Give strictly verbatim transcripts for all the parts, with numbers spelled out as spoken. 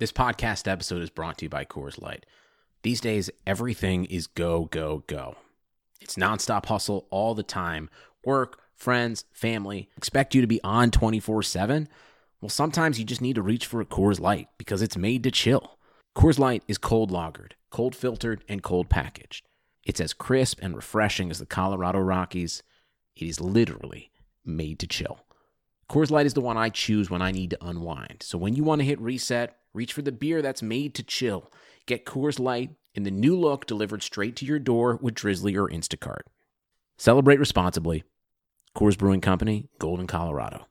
This podcast episode is brought to you by Coors Light. These days, everything is go, go, go. It's nonstop hustle all the time. Work, friends, family, expect you to be on twenty-four seven. Well, sometimes you just need to reach for a Coors Light because it's made to chill. Coors Light is cold lagered, cold filtered, and cold packaged. It's as crisp and refreshing as the Colorado Rockies. It is literally made to chill. Coors Light is the one I choose when I need to unwind. So when you want to hit reset, reach for the beer that's made to chill. Get Coors Light in the new look delivered straight to your door with Drizzly or Instacart. Celebrate responsibly. Coors Brewing Company, Golden, Colorado.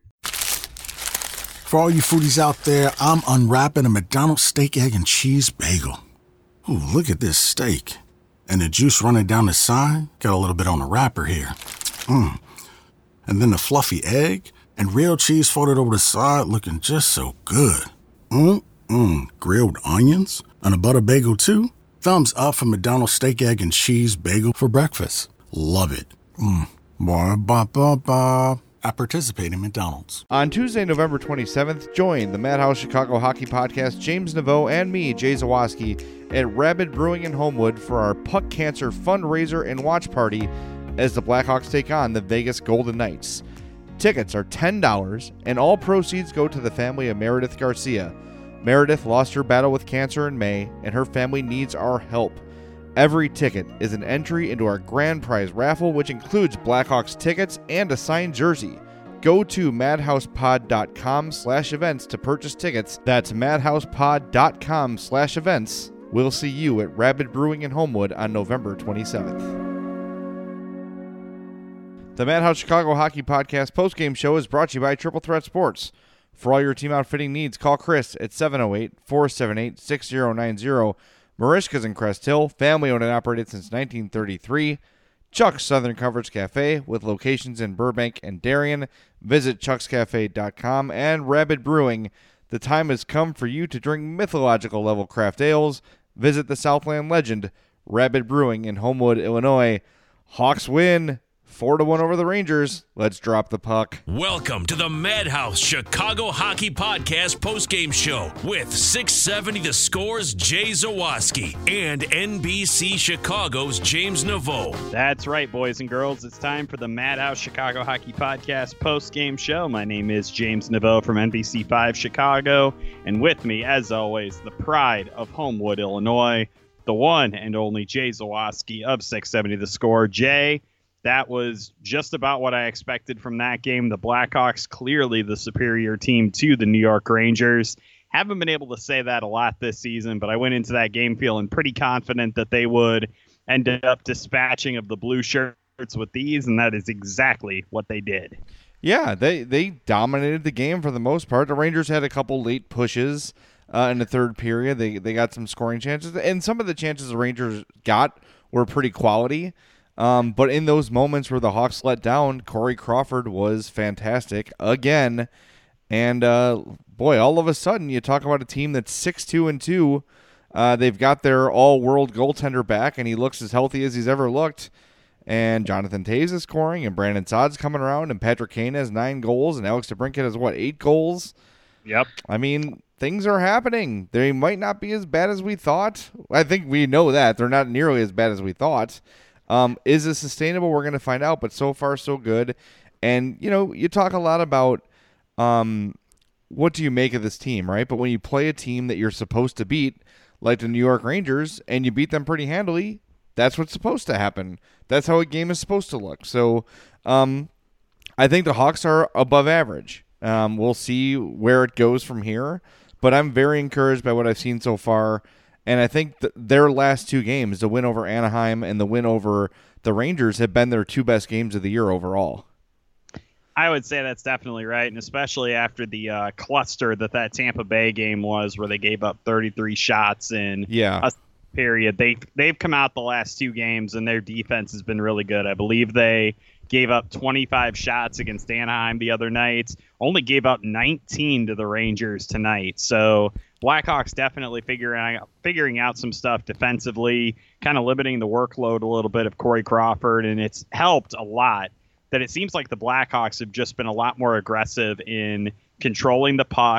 For all you foodies out there, I'm unwrapping a McDonald's steak, egg, and cheese bagel. Ooh, look at this steak. And the juice running down the side. Got a little bit on the wrapper here. Mmm. And then the fluffy egg and real cheese folded over the side looking just so good. Mmm, grilled onions and a butter bagel too. Thumbs up for McDonald's steak, egg, and cheese bagel for breakfast. Love it. Mmm. Ba ba ba ba. I participate in McDonald's. On Tuesday, November twenty-seventh, join the Madhouse Chicago Hockey Podcast, James Naveau and me, Jay Zawaski, at Rabid Brewing in Homewood for our Puck Cancer fundraiser and watch party as the Blackhawks take on the Vegas Golden Knights. Tickets are ten dollars, and all proceeds go to the family of Meredith Garcia. Meredith lost her battle with cancer in May, and her family needs our help. Every ticket is an entry into our grand prize raffle, which includes Blackhawks tickets and a signed jersey. Go to madhousepod.com slash events to purchase tickets. That's madhousepod.com slash events. We'll see you at Rabid Brewing in Homewood on November twenty-seventh. The Madhouse Chicago Hockey Podcast postgame show is brought to you by Triple Threat Sports. For all your team outfitting needs, call Chris at seven oh eight, four seven eight, six oh nine oh. Marishka's in Crest Hill, family owned and operated since nineteen thirty-three. Chuck's Southern Comforts Cafe with locations in Burbank and Darien. Visit chucks cafe dot com. And Rabid Brewing. The time has come for you to drink mythological level craft ales. Visit the Southland legend, Rabid Brewing in Homewood, Illinois. Hawks win four to one over the Rangers. Let's drop the puck. Welcome to the Madhouse Chicago Hockey Podcast postgame show with six seventy The Score's Jay Zawaski and N B C Chicago's James Naveau. That's right, boys and girls. It's time for the Madhouse Chicago Hockey Podcast postgame show. My name is James Naveau from N B C five Chicago, and with me, as always, the pride of Homewood, Illinois, the one and only Jay Zawaski of six seventy The Score. Jay, that was just about what I expected from that game. The Blackhawks, clearly the superior team to the New York Rangers. Haven't been able to say that a lot this season, but I went into that game feeling pretty confident that they would end up dispatching of the blue shirts with these, and that is exactly what they did. Yeah, they, they dominated the game for the most part. The Rangers had a couple late pushes uh, in the third period. They, they got some scoring chances, and some of the chances the Rangers got were pretty quality. Um, but in those moments where the Hawks let down, Corey Crawford was fantastic again. And, uh, boy, all of a sudden you talk about a team that's six two and two. Uh, they've got their all-world goaltender back, and he looks as healthy as he's ever looked. And Jonathan Toews is scoring, and Brandon Saad's coming around, and Patrick Kane has nine goals, and Alex DeBrincat has, what, eight goals? Yep. I mean, things are happening. They might not be as bad as we thought. I think we know that. They're not nearly as bad as we thought. Um, is it sustainable? We're going to find out, but so far so good. And, you know, you talk a lot about um, what do you make of this team, right? But when you play a team that you're supposed to beat, like the New York Rangers, and you beat them pretty handily, that's what's supposed to happen. That's how a game is supposed to look. So um, I think the Hawks are above average. Um, we'll see where it goes from here, but I'm very encouraged by what I've seen so far. And I think th- their last two games, the win over Anaheim and the win over the Rangers, have been their two best games of the year overall. I would say that's definitely right, and especially after the uh, cluster that that Tampa Bay game was, where they gave up thirty-three shots in yeah. a period. They, they've come out the last two games, and their defense has been really good. I believe they gave up twenty-five shots against Anaheim the other night, only gave up nineteen to the Rangers tonight. So Blackhawks definitely figuring out, figuring out some stuff defensively, kind of limiting the workload a little bit of Corey Crawford, and it's helped a lot that it seems like the Blackhawks have just been a lot more aggressive in controlling the puck,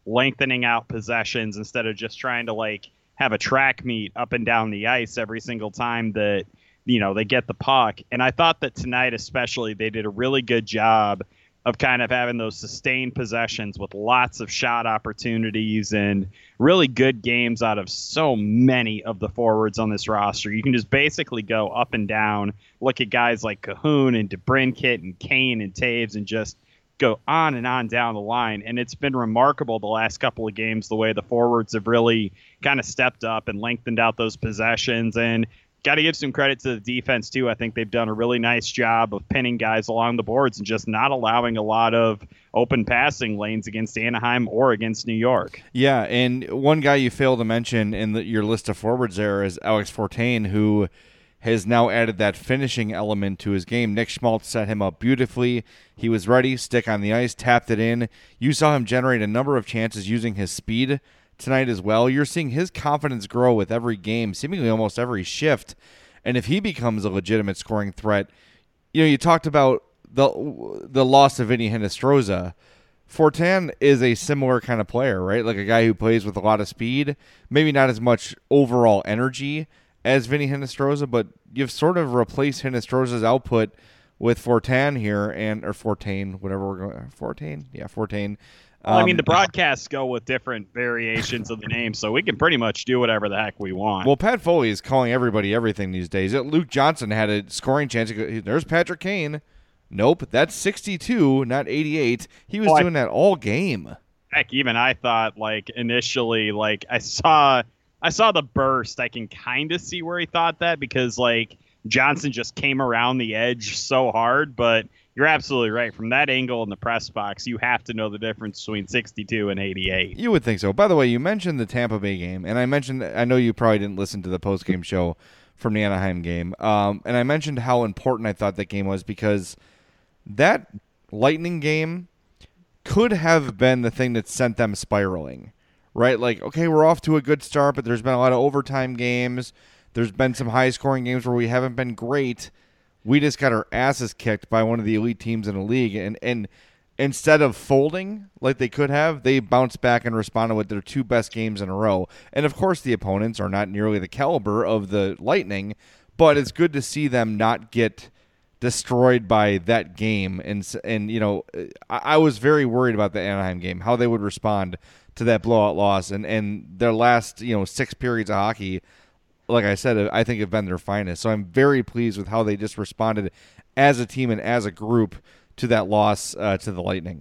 lengthening out possessions instead of just trying to like have a track meet up and down the ice every single time that, you know, they get the puck. And I thought that tonight especially they did a really good job of kind of having those sustained possessions with lots of shot opportunities and really good games out of so many of the forwards on this roster. You can just basically go up and down, look at guys like Cahoon and DeBrincat and Kane and Taves and just go on and on down the line. And it's been remarkable the last couple of games, the way the forwards have really kind of stepped up and lengthened out those possessions. And got to give some credit to the defense, too. I think they've done a really nice job of pinning guys along the boards and just not allowing a lot of open passing lanes against Anaheim or against New York. Yeah, and one guy you failed to mention in the, your list of forwards there is Alex Fortin, who has now added that finishing element to his game. Nick Schmaltz set him up beautifully. He was ready, stick on the ice, tapped it in. You saw him generate a number of chances using his speed tonight as well. You're seeing his confidence grow with every game, seemingly almost every shift. And if he becomes a legitimate scoring threat, you know, you talked about the the loss of Vinny Hinostroza. Fortin is a similar kind of player, right? Like a guy who plays with a lot of speed, maybe not as much overall energy as Vinny Hinostroza, but you've sort of replaced Hinostroza's output with Fortin here, and or Fortin, whatever we're going, Fortin, yeah, Fortin. Well, I mean, the broadcasts go with different variations of the name, so we can pretty much do whatever the heck we want. Well, Pat Foley is calling everybody everything these days. Luke Johnson had a scoring chance. There's Patrick Kane. Nope, that's sixty-two, not eighty-eight. He was oh, doing I, that all game. Heck, even I thought, like, initially, like, I saw I saw the burst. I can kind of see where he thought that because, like, Johnson just came around the edge so hard, but you're absolutely right. From that angle in the press box, you have to know the difference between sixty-two and eighty-eight. You would think so. By the way, you mentioned the Tampa Bay game, and I mentioned, I know you probably didn't listen to the post-game show from the Anaheim game, um, and I mentioned how important I thought that game was because that Lightning game could have been the thing that sent them spiraling, right? Like, okay, we're off to a good start, but there's been a lot of overtime games. There's been some high-scoring games where we haven't been great. We just got our asses kicked by one of the elite teams in the league, and, and instead of folding like they could have, they bounced back and responded with their two best games in a row. And, of course, the opponents are not nearly the caliber of the Lightning, but it's good to see them not get destroyed by that game. And, and you know, I, I was very worried about the Anaheim game, how they would respond to that blowout loss. And, and their last, you know, six periods of hockey, like I said, I think have been their finest. So I'm very pleased with how they just responded as a team and as a group to that loss uh, to the Lightning.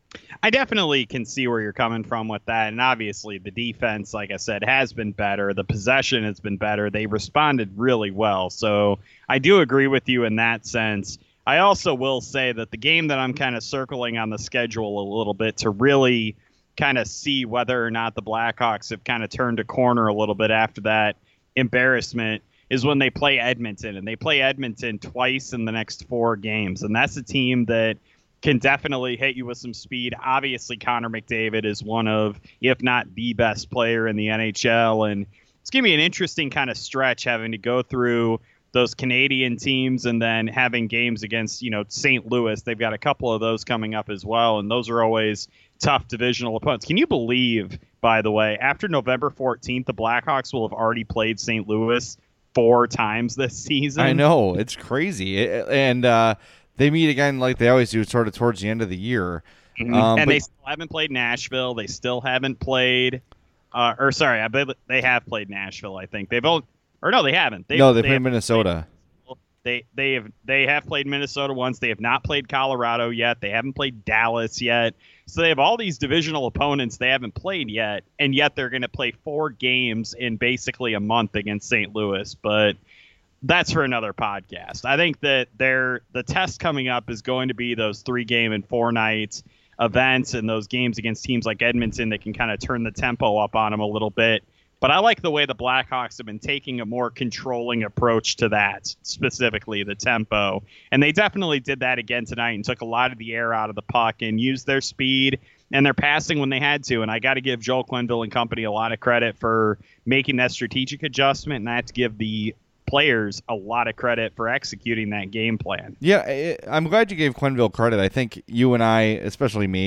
I definitely can see where you're coming from with that. And obviously the defense, like I said, has been better. The possession has been better. They responded really well. So I do agree with you in that sense. I also will say that the game that I'm kind of circling on the schedule a little bit to really kind of see whether or not the Blackhawks have kind of turned a corner a little bit after that embarrassment is when they play Edmonton, and they play Edmonton twice in the next four games. And that's a team that can definitely hit you with some speed. Obviously, Connor McDavid is one of, if not the best player in the N H L. And it's going to be an interesting kind of stretch having to go through those Canadian teams and then having games against, you know, Saint Louis. They've got a couple of those coming up as well. And those are always tough divisional opponents. Can you believe, by the way, after November fourteenth, the Blackhawks will have already played Saint Louis four times this season? I know. It's crazy. And uh, they meet again like they always do sort of towards the end of the year. Mm-hmm. Um, and but- they still haven't played Nashville. They still haven't played uh, – or sorry, I believe they have played Nashville, I think. They've only – or no, they haven't. They've, no, they, they played Minnesota. Played, they, they, have, they have played Minnesota once. They have not played Colorado yet. They haven't played Dallas yet. So they have all these divisional opponents they haven't played yet, and yet they're going to play four games in basically a month against Saint Louis. But that's for another podcast. I think that they're, the test coming up is going to be those three-game and four-night events and those games against teams like Edmonton that can kind of turn the tempo up on them a little bit. But I like the way the Blackhawks have been taking a more controlling approach to that, specifically the tempo. And they definitely did that again tonight and took a lot of the air out of the puck and used their speed and their passing when they had to. And I got to give Joel Quenneville and company a lot of credit for making that strategic adjustment, and I have to give the players a lot of credit for executing that game plan. Yeah, I'm glad you gave Quenneville credit. I think you and I, especially me,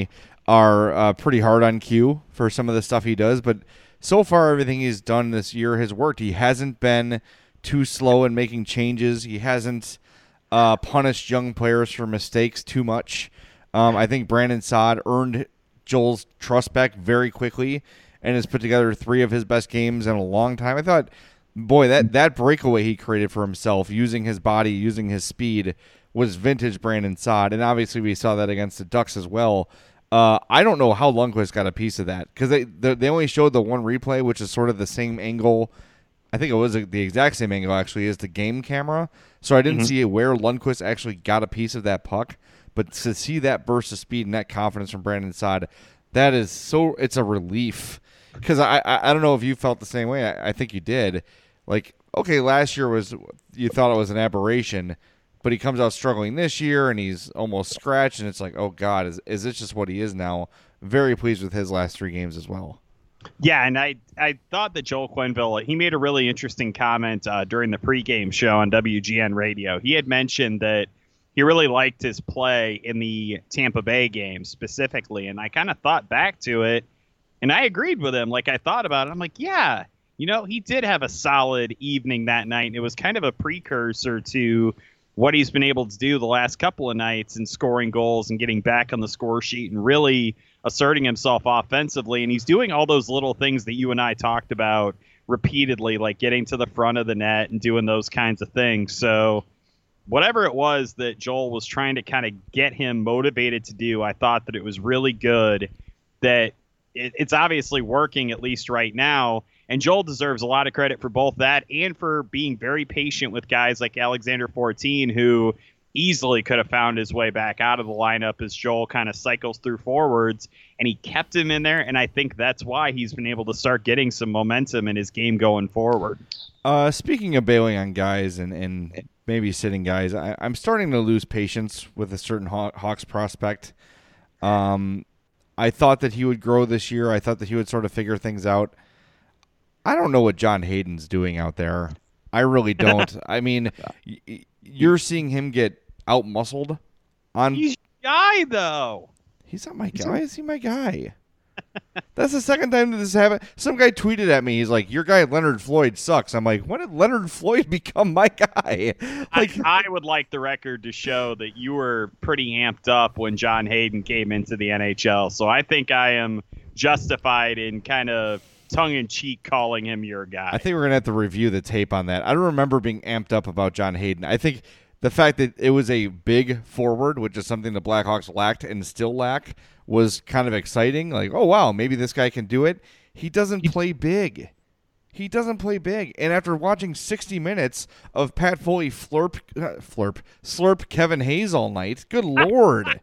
are uh, pretty hard on Q for some of the stuff he does, but so far everything he's done this year has worked. He hasn't been too slow in making changes. He hasn't uh, punished young players for mistakes too much. Um, I think Brandon Saad earned Joel's trust back very quickly and has put together three of his best games in a long time. I thought, boy, that, that breakaway he created for himself, using his body, using his speed, was vintage Brandon Saad, and obviously we saw that against the Ducks as well. Uh, I don't know how Lundqvist got a piece of that, because they they only showed the one replay, which is sort of the same angle. I think it was the exact same angle, actually, as the game camera. So I didn't mm-hmm. see where Lundqvist actually got a piece of that puck. But to see that burst of speed and that confidence from Brandon Saad, that is so – it's a relief. Because I, I I don't know if you felt the same way. I, I think you did. Like, okay, last year was – you thought it was an aberration, but he comes out struggling this year and he's almost scratched, and it's like, oh, God, is, is this just what he is now? Very pleased with his last three games as well. Yeah, and I, I thought that Joel Quenneville, he made a really interesting comment uh, during the pregame show on W G N Radio. He had mentioned that he really liked his play in the Tampa Bay game specifically, and I kind of thought back to it, and I agreed with him. Like, I thought about it. I'm like, yeah, you know, he did have a solid evening that night, and it was kind of a precursor to what he's been able to do the last couple of nights and scoring goals and getting back on the score sheet and really asserting himself offensively. And he's doing all those little things that you and I talked about repeatedly, like getting to the front of the net and doing those kinds of things. So whatever it was that Joel was trying to kind of get him motivated to do, I thought that it was really good, that it, it's obviously working, at least right now. And Joel deserves a lot of credit for both that and for being very patient with guys like Alexander fourteen, who easily could have found his way back out of the lineup as Joel kind of cycles through forwards, and he kept him in there. And I think that's why he's been able to start getting some momentum in his game going forward. Uh, speaking of bailing on guys and, and maybe sitting guys, I, I'm starting to lose patience with a certain Haw- Hawks prospect. Um, I thought that he would grow this year. I thought that he would sort of figure things out. I don't know what John Hayden's doing out there. I really don't. I mean, y- you're seeing him get out-muscled on. He's your guy, though. He's not my guy. Is he my guy? That's the second time that this happened. Some guy tweeted at me. He's like, "Your guy Leonard Floyd sucks." I'm like, "When did Leonard Floyd become my guy?" Like, I, I would like the record to show that you were pretty amped up when John Hayden came into the N H L. So I think I am justified in kind of tongue-in-cheek calling him your guy. I think we're going to have to review the tape on that. I don't remember being amped up about John Hayden. I think the fact that it was a big forward, which is something the Blackhawks lacked and still lack, was kind of exciting. Like, oh, wow, maybe this guy can do it. He doesn't play big. He doesn't play big. And after watching sixty minutes of Pat Foley flurp, uh, flurp, slurp Kevin Hayes all night, good Lord.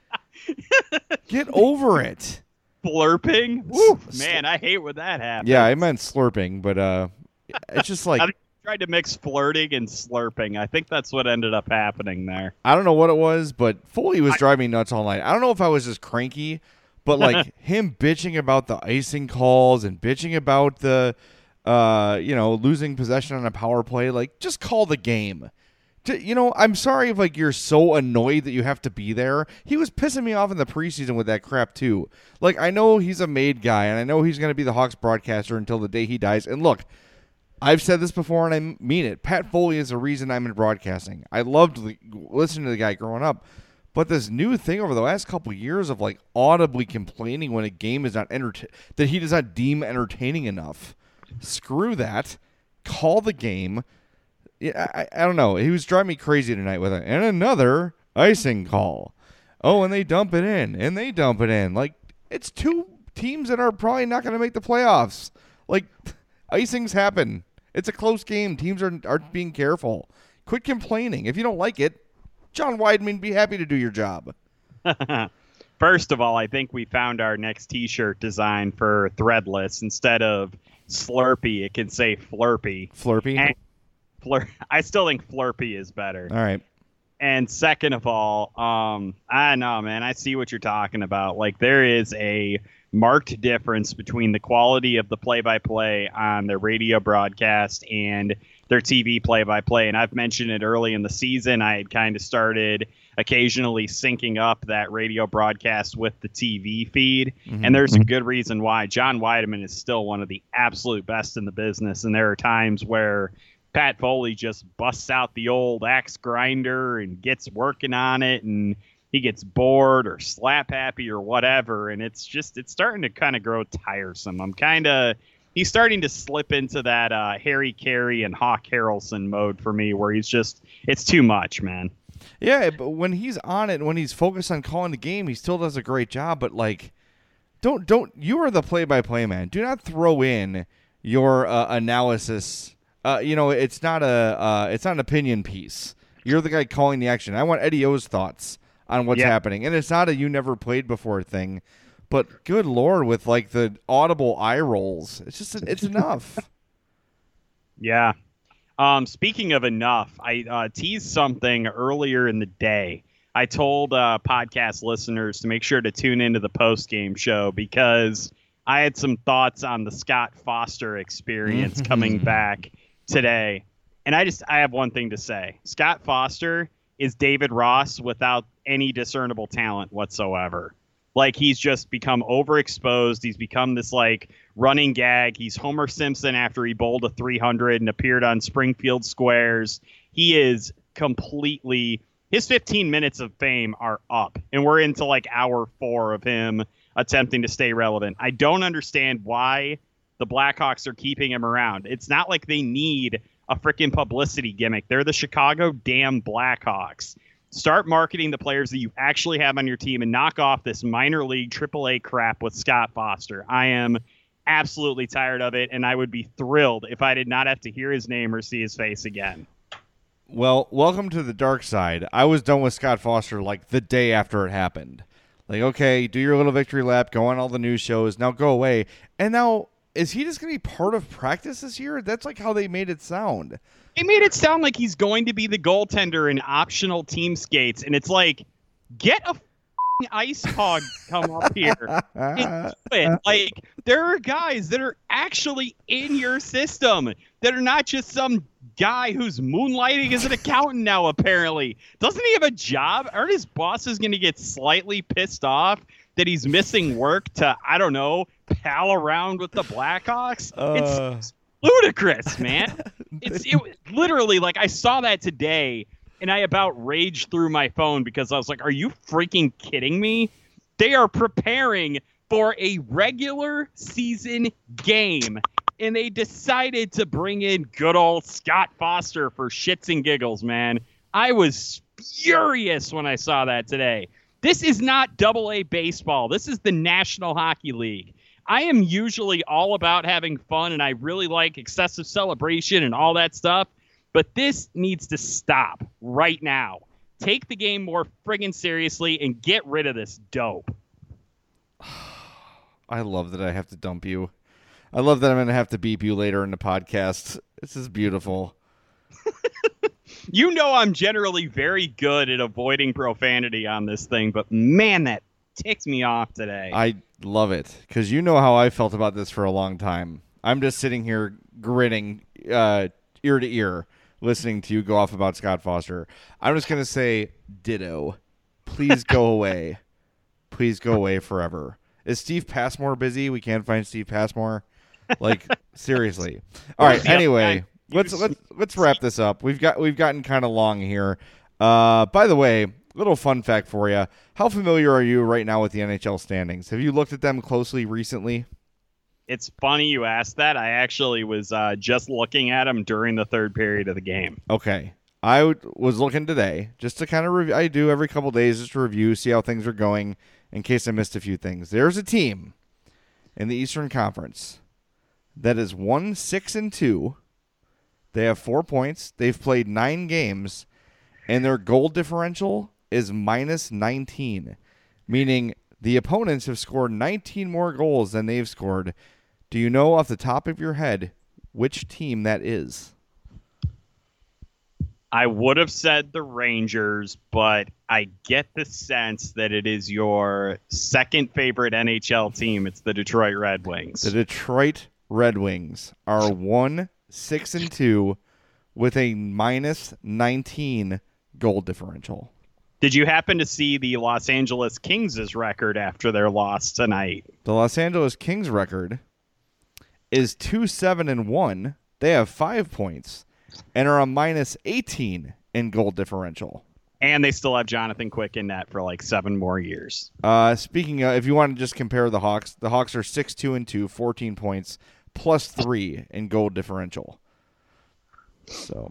Get over it. Slurping? Woo, man, I hate when that happens. Yeah, I meant slurping, but uh, it's just like... I tried to mix flirting and slurping. I think that's what ended up happening there. I don't know what it was, but Foley was I, driving me nuts all night. I don't know if I was just cranky, but like him bitching about the icing calls and bitching about the, uh, you know, losing possession on a power play. Like, just call the game. You know, I'm sorry if like you're so annoyed that you have to be there. He was pissing me off in the preseason with that crap too. Like, I know he's a made guy, and I know he's going to be the Hawks broadcaster until the day he dies. And look, I've said this before, and I mean it. Pat Foley is the reason I'm in broadcasting. I loved listening to the guy growing up, but this new thing over the last couple of years of like audibly complaining when a game is not enter- that he does not deem entertaining enough. Screw that. Call the game. Yeah, I, I don't know. He was driving me crazy tonight with it. And another icing call. Oh, and they dump it in. And they dump it in. Like, it's two teams that are probably not going to make the playoffs. Like, icings happen. It's a close game. Teams are, aren't being careful. Quit complaining. If you don't like it, John Weidman, be happy to do your job. First of all, I think we found our next T-shirt design for Threadless. Instead of Slurpee, it can say Flurpee. Flurpee? And Flur- I still think Flurpee is better. All right. And second of all, um, I know, man, I see what you're talking about. Like, there is a marked difference between the quality of the play-by-play on their radio broadcast and their T V play-by-play. And I've mentioned it early in the season. I had kind of started occasionally syncing up that radio broadcast with the T V feed. Mm-hmm. And there's a good reason why. John Weideman is still one of the absolute best in the business. And there are times where Pat Foley just busts out the old axe grinder and gets working on it, and he gets bored or slap happy or whatever. And it's just, it's starting to kind of grow tiresome. I'm kind of, he's starting to slip into that uh, Harry Carey and Hawk Harrelson mode for me, where he's just, it's too much, man. Yeah, but when he's on it, when he's focused on calling the game, he still does a great job. But like, don't don't you are the play-by-play man. Do not throw in your uh, analysis. Uh, you know, it's not a uh, it's not an opinion piece. You're the guy calling the action. I want Eddie O's thoughts on what's yeah. happening, and it's not a you never played before thing. But good Lord, with like the audible eye rolls, it's just it's enough. Yeah. Um, speaking of enough, I uh, teased something earlier in the day. I told uh, podcast listeners to make sure to tune into the post-game show because I had some thoughts on the Scott Foster experience coming back today. And I just I have one thing to say. Scott Foster is David Ross without any discernible talent whatsoever. Like, he's just become overexposed. He's become this, like, running gag. He's Homer Simpson after he bowled a three hundred and appeared on Springfield Squares. He is completely... His fifteen minutes of fame are up, and we're into, like, hour four of him attempting to stay relevant. I don't understand why the Blackhawks are keeping him around. It's not like they need a freaking publicity gimmick. They're the Chicago damn Blackhawks. Start marketing the players that you actually have on your team and knock off this minor league triple A crap with Scott Foster. I am absolutely tired of it, and I would be thrilled if I did not have to hear his name or see his face again. Well, welcome to the dark side. I was done with Scott Foster like the day after it happened. Like, okay, do your little victory lap, go on all the news shows, now go away. And now, is he just going to be part of practice this year? That's like how they made it sound. They made it sound like he's going to be the goaltender in optional team skates, and it's like, get a f***ing ice hog come up here and do it. Like, there are guys that are actually in your system that are not just some guy who's moonlighting as an accountant now, apparently. Doesn't he have a job? Aren't his bosses going to get slightly pissed off that he's missing work to, I don't know, pal around with the Blackhawks? Uh... It's ludicrous, man. It's it literally, like, I saw that today and I about raged through my phone because I was like, are you freaking kidding me? They are preparing for a regular season game, and they decided to bring in good old Scott Foster for shits and giggles, man. I was furious when I saw that today. This is not double A baseball. This is the National Hockey League. I am usually all about having fun, and I really like excessive celebration and all that stuff, but this needs to stop right now. Take the game more friggin' seriously and get rid of this dope. I love that I have to dump you. I love that I'm going to have to beep you later in the podcast. This is beautiful. You know I'm generally very good at avoiding profanity on this thing, but man, that ticks me off today. I love it, because you know how I felt about this for a long time. I'm just sitting here grinning uh, ear to ear, listening to you go off about Scott Foster. I'm just going to say ditto. Please go away. Please go away forever. Is Steve Passmore busy? We can't find Steve Passmore. Like, seriously. All right. Anyway, let's let's let's wrap this up. We've got we've gotten kind of long here. Uh, by the way, little fun fact for you: how familiar are you right now with the N H L standings? Have you looked at them closely recently? It's funny you asked that. I actually was uh, just looking at them during the third period of the game. Okay. I w- was looking today just to kind of review. I do every couple days just to review, see how things are going in case I missed a few things. There's a team in the Eastern Conference that is one, six, and two. They have four points. They've played nine games, and their goal differential is minus nineteen, meaning the opponents have scored nineteen more goals than they've scored. Do you know off the top of your head which team that is? I would have said the Rangers, but I get the sense that it is your second favorite N H L team. It's the Detroit Red Wings. The Detroit Red Wings are one, six, and two with a minus nineteen goal differential. Did you happen to see the Los Angeles Kings' record after their loss tonight? The Los Angeles Kings record is two seven and one. They have five points and are a minus eighteen in goal differential. And they still have Jonathan Quick in net for like seven more years. Uh, speaking of, if you want to just compare the Hawks, the Hawks are six two and two, fourteen points, plus three in goal differential. So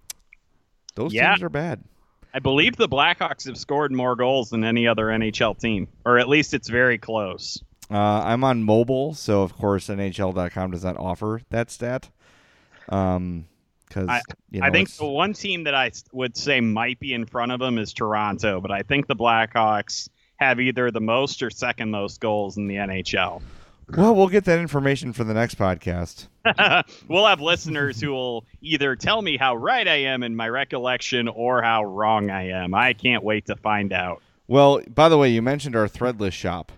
those yeah. teams are bad. I believe the Blackhawks have scored more goals than any other N H L team, or at least it's very close. Uh, I'm on mobile, so of course N H L dot com does not offer that stat. Um, because I, you know, I think it's... the one team that I would say might be in front of them is Toronto, but I think the Blackhawks have either the most or second most goals in the N H L. Well, we'll get that information for the next podcast. We'll have listeners who will either tell me how right I am in my recollection or how wrong I am. I can't wait to find out. Well, by the way, you mentioned our Threadless shop.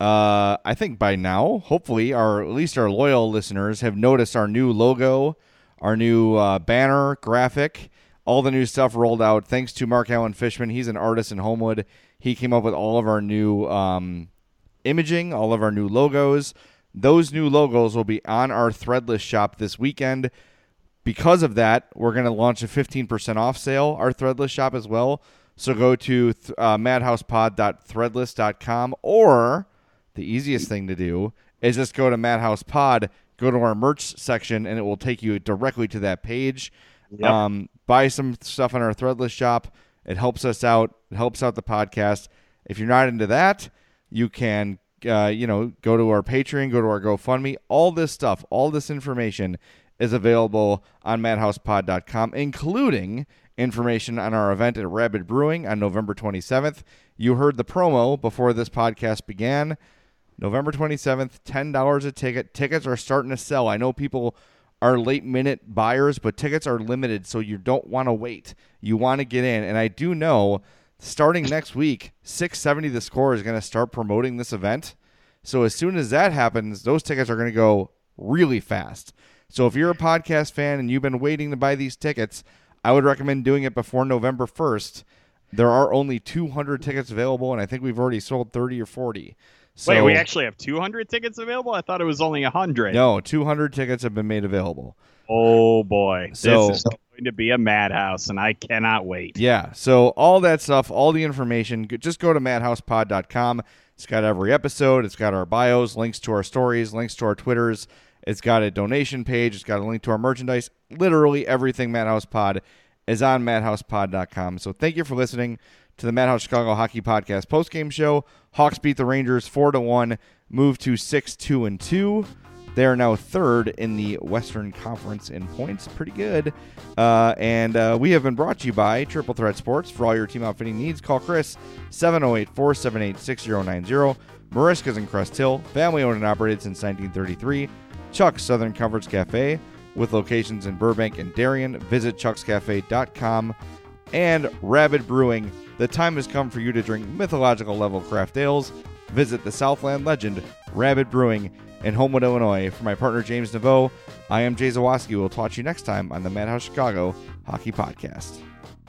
Uh, I think by now, hopefully, our at least our loyal listeners have noticed our new logo, our new uh, banner, graphic, all the new stuff rolled out. Thanks to Mark Allen Fishman. He's an artist in Homewood. He came up with all of our new um, imaging, all of our new logos. Those new logos will be on our Threadless shop this weekend. Because of that, we're going to launch a fifteen percent off sale, our Threadless shop as well. So go to uh, madhousepod dot threadless dot com, or the easiest thing to do is just go to MadhousePod, go to our merch section, and it will take you directly to that page. Yep. Um, buy some stuff on our Threadless shop. It helps us out. It helps out the podcast. If you're not into that, you can uh, you know, go to our Patreon, go to our GoFundMe. All this stuff, all this information is available on madhousepod dot com, including information on our event at Rabid Brewing on November twenty-seventh. You heard the promo before this podcast began. November twenty-seventh, ten dollars a ticket. Tickets are starting to sell. I know people are late-minute buyers, but tickets are limited, so you don't want to wait. You want to get in. And I do know starting next week, six seventy The Score is going to start promoting this event. So as soon as that happens, those tickets are going to go really fast. So if you're a podcast fan and you've been waiting to buy these tickets, I would recommend doing it before November first. There are only two hundred tickets available, and I think we've already sold thirty or forty. So, wait, we actually have two hundred tickets available? I thought it was only one hundred. No, two hundred tickets have been made available. Oh, boy. So, this is going to be a madhouse, and I cannot wait. Yeah, so all that stuff, all the information, just go to madhousepod dot com. It's got every episode. It's got our bios, links to our stories, links to our Twitters. It's got a donation page. It's got a link to our merchandise. Literally everything Madhouse Pod is on madhousepod dot com. So thank you for listening to the Madhouse Chicago Hockey Podcast postgame show. Hawks beat the Rangers four to one, move to six two and two. They are now third in the Western Conference in points. Pretty good. Uh, and uh, we have been brought to you by Triple Threat Sports. For all your team outfitting needs, call Chris, seven oh eight, four seven eight, six oh nine oh. Mariska's in Crest Hill, family owned and operated since nineteen thirty-three. Chuck's Southern Comforts Cafe, with locations in Burbank and Darien. Visit chucks cafe dot com. And Rabid Brewing. The time has come for you to drink mythological level craft ales. Visit the Southland legend, Rabid Brewing, in Homewood, Illinois. For my partner, James Naveau, I am Jay Zawaski. We'll talk to you next time on the Madhouse Chicago Hockey Podcast.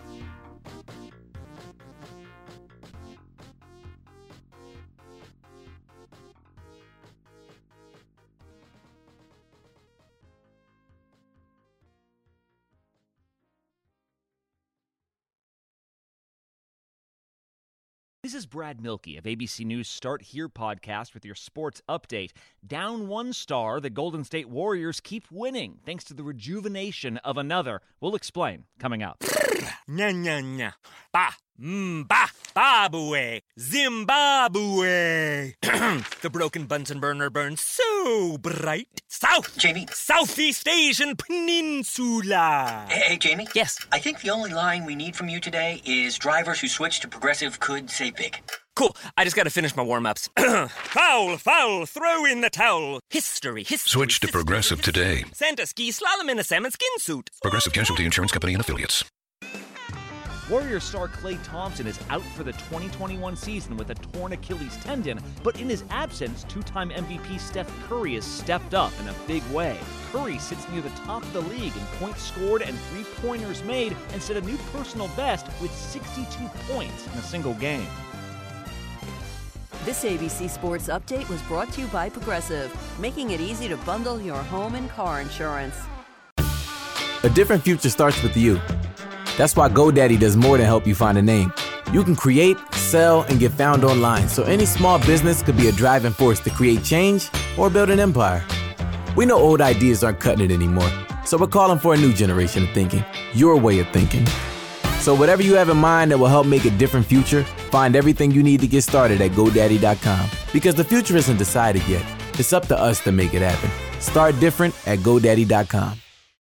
This is Brad Milkey of A B C News Start Here podcast with your sports update. Down one star, the Golden State Warriors keep winning thanks to the rejuvenation of another. We'll explain coming up. Nya nya nya. Ba. Mm, ba. Babue. Zimbabwe. The broken Bunsen burner burns so bright. South. Jamie. Southeast Asian Peninsula. Hey, hey, Jamie? Yes? I think the only line we need from you today is drivers who switch to Progressive could save big. Cool. I just got to finish my warm-ups. Foul, foul, throw in the towel. History, history. Switch to history, Progressive history. today. Santa ski slalom in a salmon skin suit. Progressive Casualty Insurance Company and Affiliates. Warriors star Klay Thompson is out for the twenty twenty-one season with a torn Achilles tendon, but in his absence, two-time M V P Steph Curry has stepped up in a big way. Curry sits near the top of the league in points scored and three-pointers made and set a new personal best with sixty-two points in a single game. This A B C Sports Update was brought to you by Progressive, making it easy to bundle your home and car insurance. A different future starts with you. That's why GoDaddy does more than help you find a name. You can create, sell, and get found online, so any small business could be a driving force to create change or build an empire. We know old ideas aren't cutting it anymore, so we're calling for a new generation of thinking, your way of thinking. So whatever you have in mind that will help make a different future, find everything you need to get started at GoDaddy dot com. Because the future isn't decided yet. It's up to us to make it happen. Start different at GoDaddy dot com.